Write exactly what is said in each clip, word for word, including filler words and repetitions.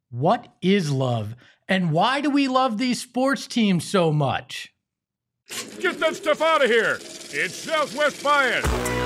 What is love? And why do we love these sports teams so much? Get that stuff out of here! It's Southwest Bias!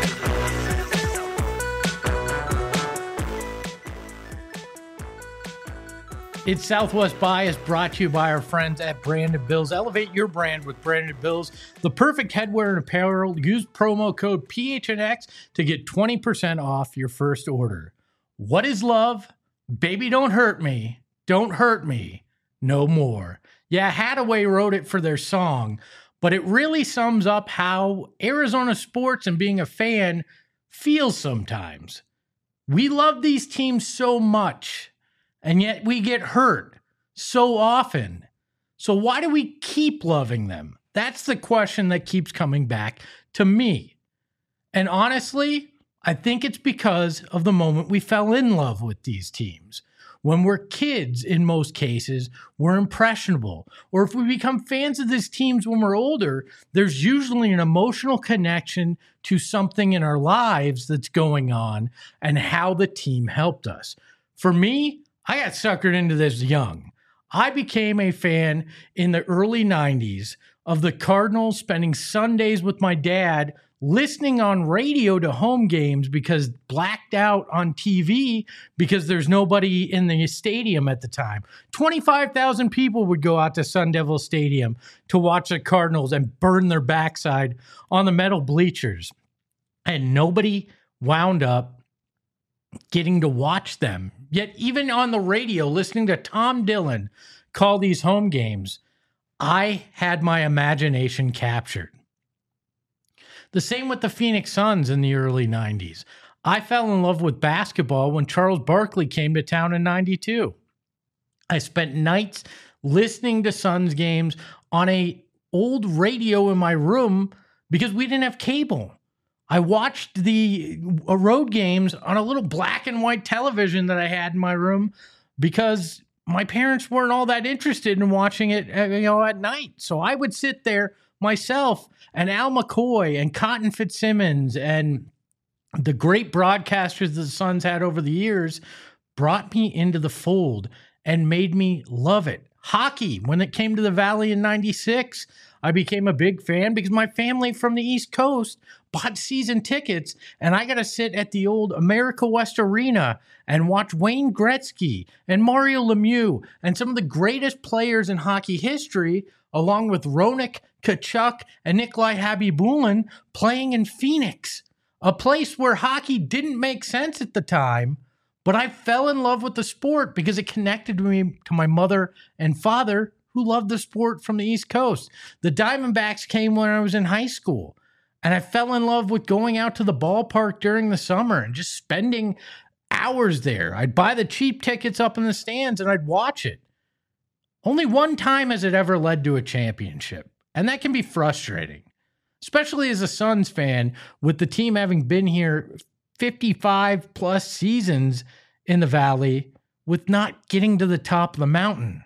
It's Southwest Bias, brought to you by our friends at Branded Bills. Elevate your brand with Branded Bills, the perfect headwear and apparel. Use promo code P H N X to get twenty percent off your first order. What is love? Baby, don't hurt me. Don't hurt me. No more. Yeah, Hadaway wrote it for their song, but it really sums up how Arizona sports and being a fan feels sometimes. We love these teams so much, and yet we get hurt so often. So why do we keep loving them? That's the question that keeps coming back to me. And honestly, I think it's because of the moment we fell in love with these teams. When we're kids, in most cases, we're impressionable. Or if we become fans of these teams when we're older, there's usually an emotional connection to something in our lives that's going on and how the team helped us. For me, I got suckered into this young. I became a fan in the early nineties of the Cardinals, spending Sundays with my dad, listening on radio to home games because blacked out on T V because there's nobody in the stadium at the time. twenty-five thousand people would go out to Sun Devil Stadium to watch the Cardinals and burn their backside on the metal bleachers. And nobody wound up getting to watch them. Yet even on the radio, listening to Tom Dillon call these home games, I had my imagination captured. The same with the Phoenix Suns in the early nineties. I fell in love with basketball when Charles Barkley came to town in ninety-two. I spent nights listening to Suns games on a old radio in my room because we didn't have cable. I watched the road games on a little black and white television that I had in my room because my parents weren't all that interested in watching it, you know, at night. So I would sit there myself and Al McCoy and Cotton Fitzsimmons and the great broadcasters the Suns had over the years brought me into the fold and made me love it. Hockey, when it came to the Valley in ninety-six, I became a big fan because my family from the East Coast bought season tickets, and I got to sit at the old America West Arena and watch Wayne Gretzky and Mario Lemieux and some of the greatest players in hockey history, along with Ronik, Tkachuk, and Nikolai Khabibulin playing in Phoenix, a place where hockey didn't make sense at the time, but I fell in love with the sport because it connected me to my mother and father who loved the sport from the East Coast. The Diamondbacks came when I was in high school, and I fell in love with going out to the ballpark during the summer and just spending hours there. I'd buy the cheap tickets up in the stands and I'd watch it. Only one time has it ever led to a championship, and that can be frustrating, especially as a Suns fan with the team having been here fifty-five plus seasons in the Valley with not getting to the top of the mountain.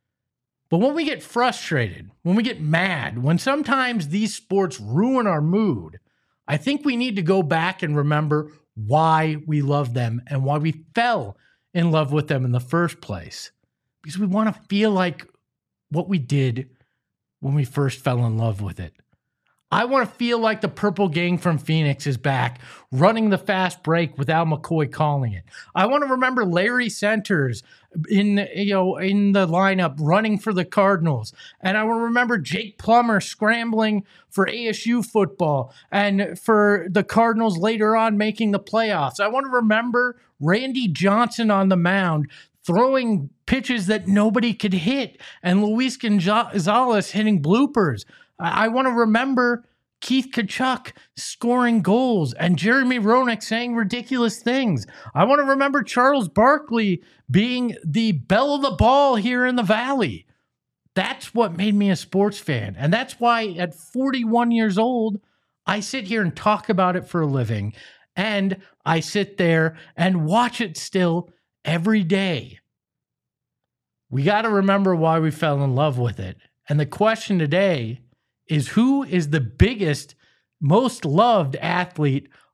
But when we get frustrated, when we get mad, when sometimes these sports ruin our mood, I think we need to go back and remember why we love them and why we fell in love with them in the first place. Because we want to feel like what we did when we first fell in love with it. I want to feel like the Purple Gang from Phoenix is back, running the fast break with Al McCoy calling it. I want to remember Larry Centers in, you know, in the lineup running for the Cardinals. And I want to remember Jake Plummer scrambling for A S U football and for the Cardinals later on making the playoffs. I want to remember Randy Johnson on the mound throwing pitches that nobody could hit and Luis Gonzalez hitting bloopers. I want to remember Keith Tkachuk scoring goals and Jeremy Roenick saying ridiculous things. I want to remember Charles Barkley being the belle of the ball here in the Valley. That's what made me a sports fan. And that's why at forty-one years old, I sit here and talk about it for a living. And I sit there and watch it still every day. We got to remember why we fell in love with it. And the question today is, who is the biggest, most loved athlete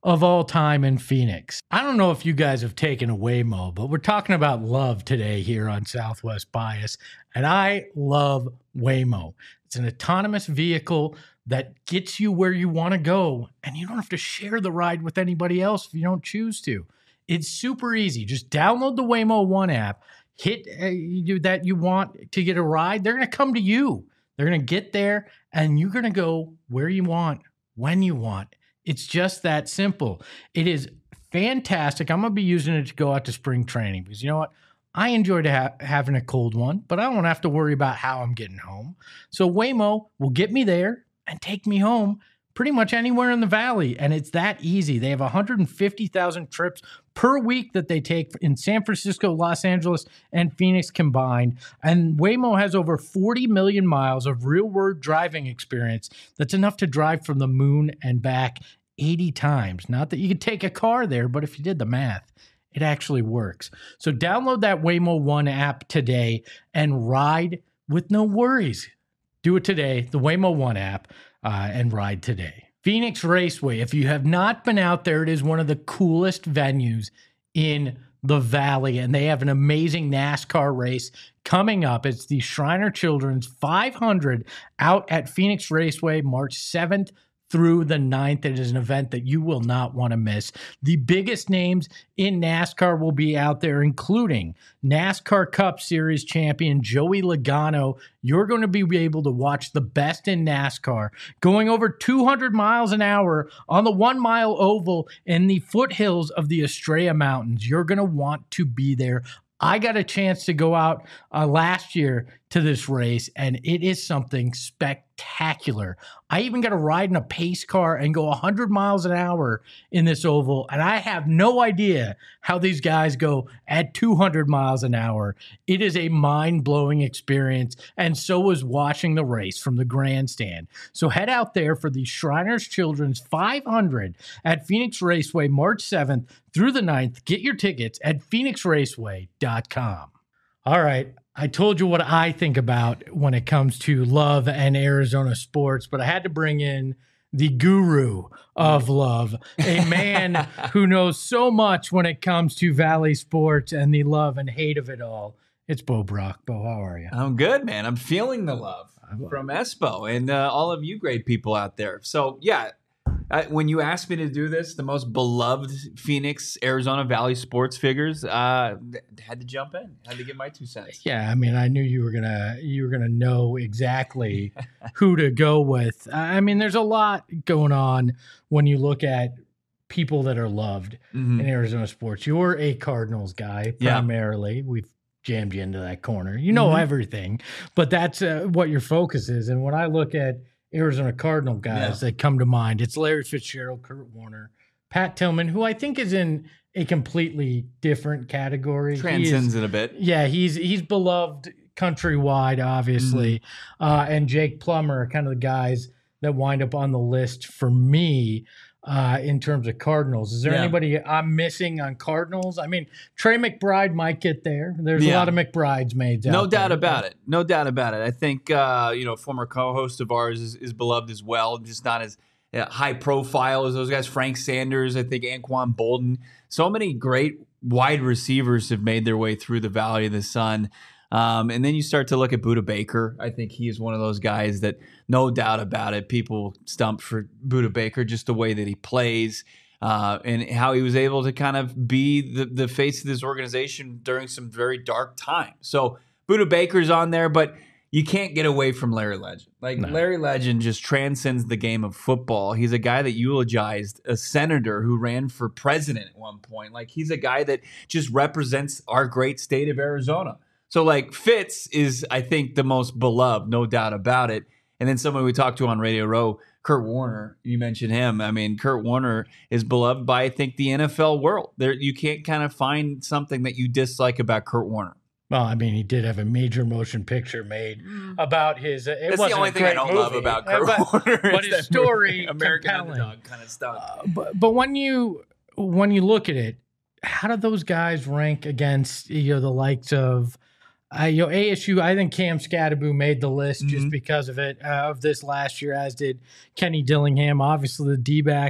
of all time in Phoenix. I don't know if you guys have taken a Waymo, but we're talking about love today here on Southwest Bias, and I love Waymo. It's an autonomous vehicle that gets you where you want to go, and you don't have to share the ride with anybody else if you don't choose to. It's super easy. Just download the Waymo One app, hit uh, you, that you want to get a ride. They're going to come to you. They're going to get there, and you're going to go where you want, when you want. It's just that simple. It is fantastic. I'm going to be using it to go out to spring training because you know what? I enjoyed ha- having a cold one, but I don't have to worry about how I'm getting home. So Waymo will get me there and take me home pretty much anywhere in the valley. And it's that easy. They have one hundred fifty thousand trips per week that they take in San Francisco, Los Angeles, and Phoenix combined. And Waymo has over forty million miles of real-world driving experience. That's enough to drive from the moon and back eighty times. Not that you could take a car there, but if you did the math, it actually works. So download that Waymo One app today and ride with no worries. Do it today, the Waymo One app, uh, and ride today. Phoenix Raceway, if you have not been out there, it is one of the coolest venues in the Valley, and they have an amazing NASCAR race coming up. It's the Shriner Children's five hundred out at Phoenix Raceway, March seventh through the ninth. It is an event that you will not want to miss. The biggest names in NASCAR will be out there, including NASCAR Cup Series champion Joey Logano. You're going to be able to watch the best in NASCAR going over two hundred miles an hour on the one-mile oval in the foothills of the Estrella Mountains. You're going to want to be there. I got a chance to go out uh, last year to this race, and it is something spectacular. I even got to ride in a pace car and go one hundred miles an hour in this oval, and I have no idea how these guys go at two hundred miles an hour. It is a mind-blowing experience, and so is watching the race from the grandstand. So head out there for the Shriners Children's five hundred at Phoenix Raceway, March seventh through the ninth. Get your tickets at phoenix raceway dot com. All right. I told you what I think about when it comes to love and Arizona sports, but I had to bring in the guru of love, a man who knows so much when it comes to Valley sports and the love and hate of it all. It's Bo Brock. Bo, how are you? I'm good, man. I'm feeling the love from Espo and uh, all of you great people out there. So, yeah, I, when you asked me to do this, the most beloved Phoenix, Arizona Valley sports figures, uh, had to jump in, had to give my two cents. Yeah, I mean, I knew you were gonna you were gonna know exactly who to go with. I mean, there's a lot going on when you look at people that are loved mm-hmm. in Arizona sports. You're a Cardinals guy primarily. Yeah. We've jammed you into that corner. You know mm-hmm. everything, but that's uh, what your focus is. And when I look at Arizona Cardinal guys yeah. that come to mind, it's Larry Fitzgerald, Kurt Warner, Pat Tillman, who I think is in a completely different category. Transcends is, it a bit. Yeah, he's he's beloved countrywide, obviously. Mm-hmm. Uh, and Jake Plummer are kind of the guys that wind up on the list for me uh, in terms of Cardinals. Is there yeah. anybody I'm missing on Cardinals? I mean, Trey McBride might get there. There's yeah. a lot of McBrides made. No doubt there. about it. No doubt about it. I think, uh, you know, former co-host of ours is, is beloved as well, just not as uh, high profile as those guys. Frank Sanders, I think Anquan Bolden. So many great wide receivers have made their way through the Valley of the Sun. Um, and then you start to look at Budda Baker. I think he is one of those guys that, no doubt about it, people stump for Budda Baker, just the way that he plays uh, and how he was able to kind of be the, the face of this organization during some very dark times. So Budda Baker's on there, but you can't get away from Larry Legend. Like no. Larry Legend just transcends the game of football. He's a guy that eulogized a senator who ran for president at one point. Like he's a guy that just represents our great state of Arizona. So, like, Fitz is, I think, the most beloved, no doubt about it. And then someone we talked to on Radio Row, Kurt Warner, you mentioned him. I mean, Kurt Warner is beloved by, I think, the N F L world. There, you can't kind of find something that you dislike about Kurt Warner. Well, I mean, he did have a major motion picture made about his. Uh, it That's wasn't the only a thing great I don't movie, love about Kurt uh, but, Warner. But his story, American compelling. Underdog kind of stuff. Uh, but but when you when you look at it, how do those guys rank against you know the likes of? Uh, you know, A S U, I think Cam Scatterbo made the list mm-hmm. just because of it, uh, of this last year, as did Kenny Dillingham. Obviously, the D-backs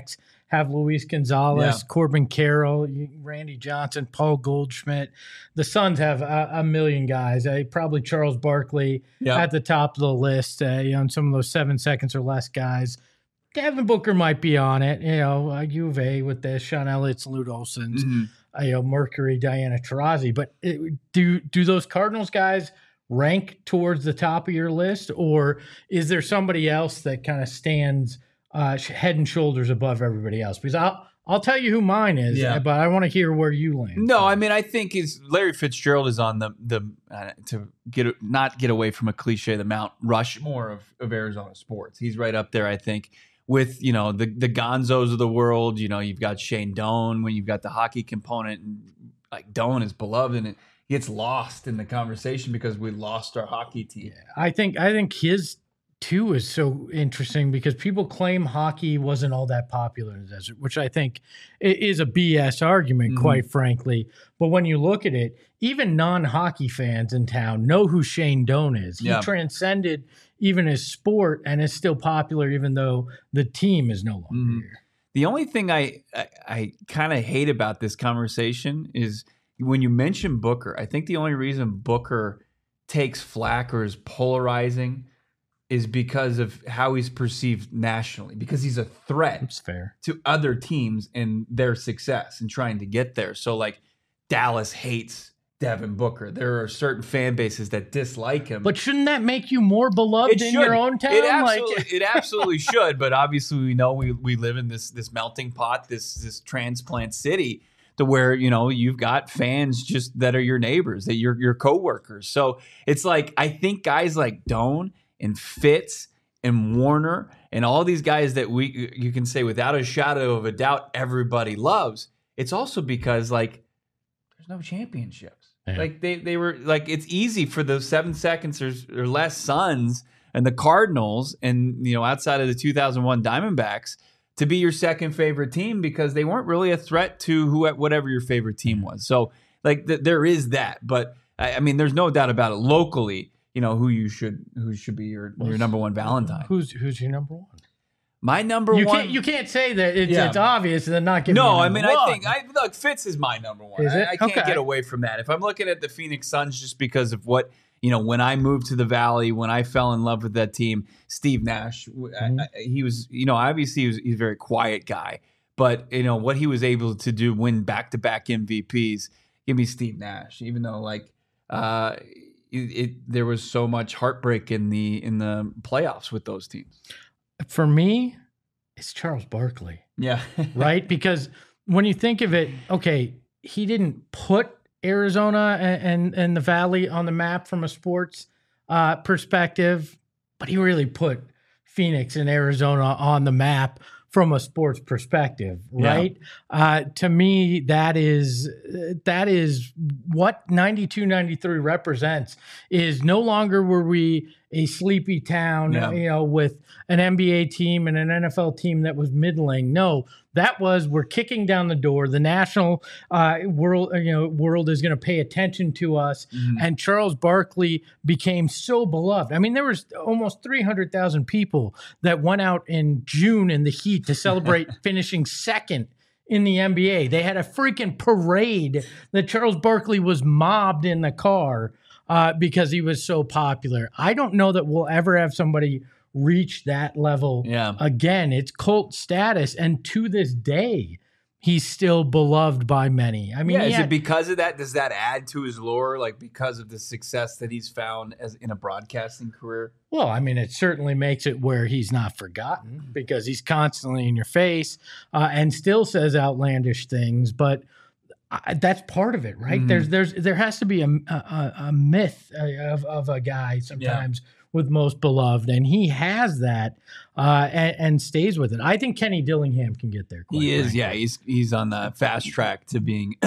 have Luis Gonzalez, Yeah. Corbin Carroll, Randy Johnson, Paul Goldschmidt. The Suns have a, a million guys. Uh, probably Charles Barkley Yep. at the top of the list. Uh, you know, and some of those seven seconds or less guys. Devin Booker might be on it. You know, uh, U of A with the Sean Elliott's, Lute Olson's, Mm-hmm. uh, you know, Mercury, Diana Taurasi. But it, do do those Cardinals guys rank towards the top of your list, or is there somebody else that kind of stands uh, head and shoulders above everybody else? Because I'll I'll tell you who mine is, Yeah. but I want to hear where you land. No, I mean, I think is Larry Fitzgerald is on the the uh, to get not get away from a cliche, the Mount Rushmore of, of Arizona sports. He's right up there, I think, with you know the the Gonzos of the world. You know, you've got Shane Doan when you've got the hockey component, and like Doan is beloved, and it gets lost in the conversation because we lost our hockey team. I think I think his too is so interesting because people claim hockey wasn't all that popular in the desert, which I think i- is a B S argument, Mhm. quite frankly. But when you look at it, even non-hockey fans in town know who Shane Doan is. He Yeah. transcended even his sport and is still popular, even though the team is no longer Mhm. here. The only thing I I, I kind of hate about this conversation is when you mention Booker. I think the only reason Booker takes flack or is polarizing is because of how he's perceived nationally, because he's a threat That's fair. to other teams and their success and trying to get there. So like Dallas hates Devin Booker. There are certain fan bases that dislike him. But shouldn't that make you more beloved in your own town? It Like- absolutely, it absolutely should. But obviously, we know we we live in this this melting pot, this this transplant city, to where you know you've got fans just that are your neighbors, that you're your coworkers. So it's like I think guys like Doan and Fitz and Warner and all these guys that we you can say without a shadow of a doubt everybody loves. It's also because like there's no championships. Yeah. Like they they were like it's easy for those seven seconds or, or less Suns and the Cardinals and you know outside of the two thousand one Diamondbacks to be your second favorite team because they weren't really a threat to who whatever your favorite team was. So like th- there is that, but I, I mean there's no doubt about it locally. You know who you should who should be your your number one Valentine. Who's who's your number one? My number You one. can't you can't say that it's, Yeah. it's obvious and then not give me No, a I number mean, I one. think I look Fitz is my number one. Is it? I, I can't Okay. get away from that. If I'm looking at the Phoenix Suns, just because of what you know, when I moved to the Valley, when I fell in love with that team, Steve Nash, Mm-hmm. I, I, he was, you know, obviously he was, he's a very quiet guy, but you know what he was able to do, win back to back M V Ps. Give me Steve Nash, even though like uh, it, it there was so much heartbreak in the in the playoffs with those teams. For me, it's Charles Barkley, Yeah, right? Because when you think of it, okay, he didn't put Arizona and, and, and the Valley on the map from a sports uh, perspective, but he really put Phoenix and Arizona on the map from a sports perspective, right? Uh, to me, that is that is what ninety-two ninety-three represents. Is no longer were we a sleepy town, Yeah. you know, with an N B A team and an N F L team that was middling. No, that was we're kicking down the door. The national uh, world, you know, world is going to pay attention to us. Mhm. And Charles Barkley became so beloved. I mean, there was almost three hundred thousand people that went out in June in the heat to celebrate finishing second in the N B A. They had a freaking parade that Charles Barkley was mobbed in the car uh, because he was so popular. I don't know that we'll ever have somebody reach that level Yeah. again. It's cult status. And to this day, he's still beloved by many. I mean, yeah, he is had- it because of that? Does that add to his lore, like because of the success that he's found as in a broadcasting career? Well, I mean, it certainly makes it where he's not forgotten because he's constantly in your face uh, and still says outlandish things. But I, that's part of it, right? Mhm. There's, there's, there has to be a, a, a myth of, of a guy sometimes with most beloved, and he has that uh, and, and stays with it. I think Kenny Dillingham can get there. Quite He is, frankly. yeah. He's he's on the fast track to being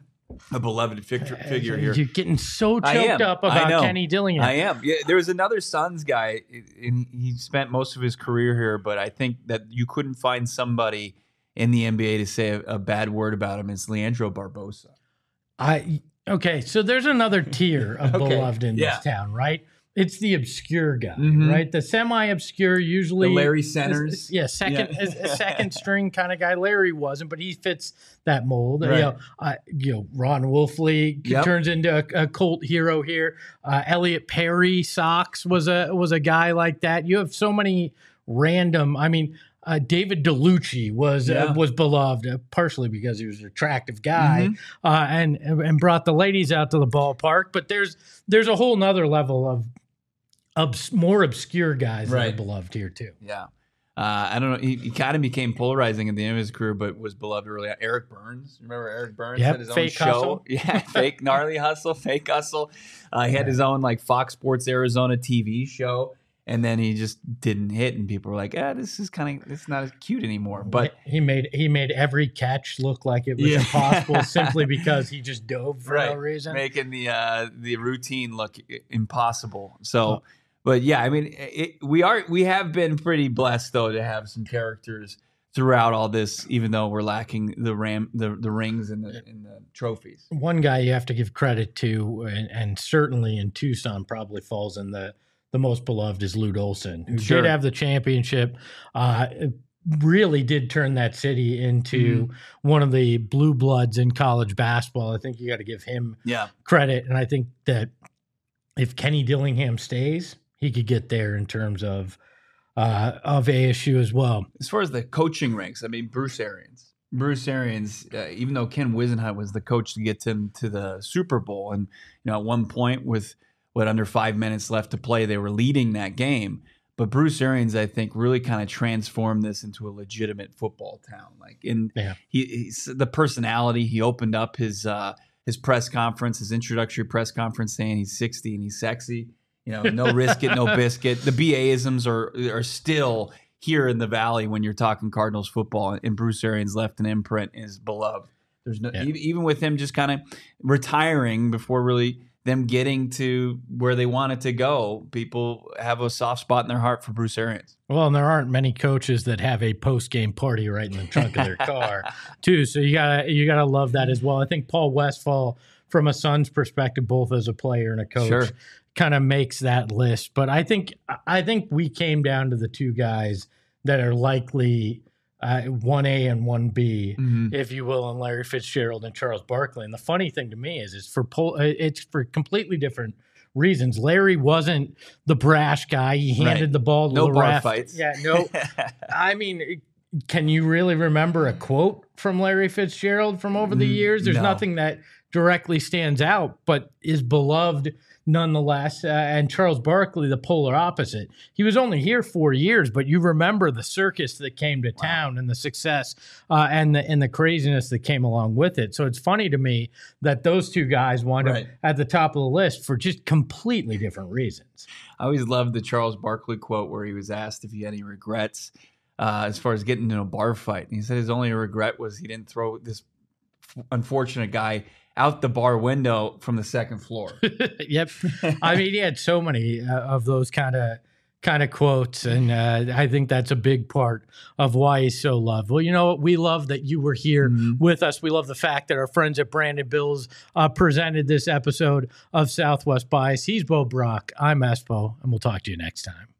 a beloved figure, figure here. You're getting so I choked am. up I about know. Kenny Dillingham. I am. Yeah, there was another Suns guy, and he spent most of his career here. But I think that you couldn't find somebody in the N B A to say a, a bad word about him. It's Leandro Barbosa. I okay, so there's another tier of Okay, beloved in yeah. this town, right? It's the obscure guy, Mhm. right? The semi-obscure, usually The Larry is- Centers. is- yeah, second Yeah. is- a second string kind of guy. Larry wasn't, but he fits that mold. Right. You know, uh, you know, Ron Wolfley Yep. turns into a, a cult hero here. Uh, Elliot Perry Sox was a was a guy like that. You have so many random. I mean. Uh, David DeLucci was Yeah. uh, was beloved uh, partially because he was an attractive guy Mhm. uh, and and brought the ladies out to the ballpark. But there's there's a whole nother level of obs- more obscure guys that Right. are beloved here too. Yeah. Uh, I don't know. He, he kind of became polarizing at the end of his career, but was beloved early on. Eric Burns. Remember Eric Burns Yep, had his Fake own show? Hustle. Yeah, fake gnarly hustle, fake hustle. Uh, he had his own like Fox Sports Arizona T V show, and then he just didn't hit, and people were like, "Ah, this is kind of it's not as cute anymore." But he made he made every catch look like it was Yeah. impossible simply because he just dove for no reason. making the uh, the routine look i- impossible. So, Oh. but yeah, I mean, it, we are we have been pretty blessed though to have some characters throughout all this, even though we're lacking the ram the, the rings and the and the trophies. One guy you have to give credit to, and, and certainly in Tucson probably falls in the the most beloved is Lute Olson, who Sure. did have the championship. Uh, really did turn that city into Mm-hmm. one of the blue bloods in college basketball. I think you got to give him Yeah, credit, and I think that if Kenny Dillingham stays, he could get there in terms of uh, of A S U as well. as far as the coaching ranks, I mean, Bruce Arians. Bruce Arians, uh, even though Ken Wisenhunt was the coach to get him to the Super Bowl, and you know, at one point with what under five minutes left to play, they were leading that game. But Bruce Arians, I think, really kind of transformed this into a legitimate football town. Like in Yeah. he, he's the personality. He opened up his uh, his press conference, his introductory press conference, saying he's sixty and he's sexy. You know, no risk it, no biscuit. The B A isms are are still here in the Valley when you're talking Cardinals football, and Bruce Arians left an imprint and is beloved. There's no Yeah. e- even with him just kind of retiring before really them getting to where they wanted to go. People have a soft spot in their heart for Bruce Arians. Well, and there aren't many coaches that have a post game party right in the trunk of their car, too. So you gotta you gotta love that as well. I think Paul Westphal, from a Suns perspective, both as a player and a coach, Sure. kind of makes that list. But I think I think we came down to the two guys that are likely uh, one A and one B, Mhm. if you will, and Larry Fitzgerald and Charles Barkley. And the funny thing to me is, it's for pol- it's for completely different reasons. Larry wasn't the brash guy. He handed Right. the ball to No the bar ref. fights. Yeah, no. I mean, can you really remember a quote from Larry Fitzgerald from over the Mm, years? There's no. nothing that directly stands out, but is beloved nonetheless. Uh, and Charles Barkley, the polar opposite. He was only here four years, but you remember the circus that came to town and the success uh, and the and the craziness that came along with it. So it's funny to me that those two guys wind Right. up at the top of the list for just completely different reasons. I always loved the Charles Barkley quote where he was asked if he had any regrets uh, as far as getting into a bar fight. And he said his only regret was he didn't throw this f- unfortunate guy out the bar window from the second floor. Yep. I mean, he had so many uh, of those kind of kind of quotes, and uh, I think that's a big part of why he's so loved. Well, you know what? We love that you were here with us. We love the fact that our friends at Brandon Bills uh, presented this episode of Southwest Bias. He's Bo Brock. I'm Espo, and we'll talk to you next time.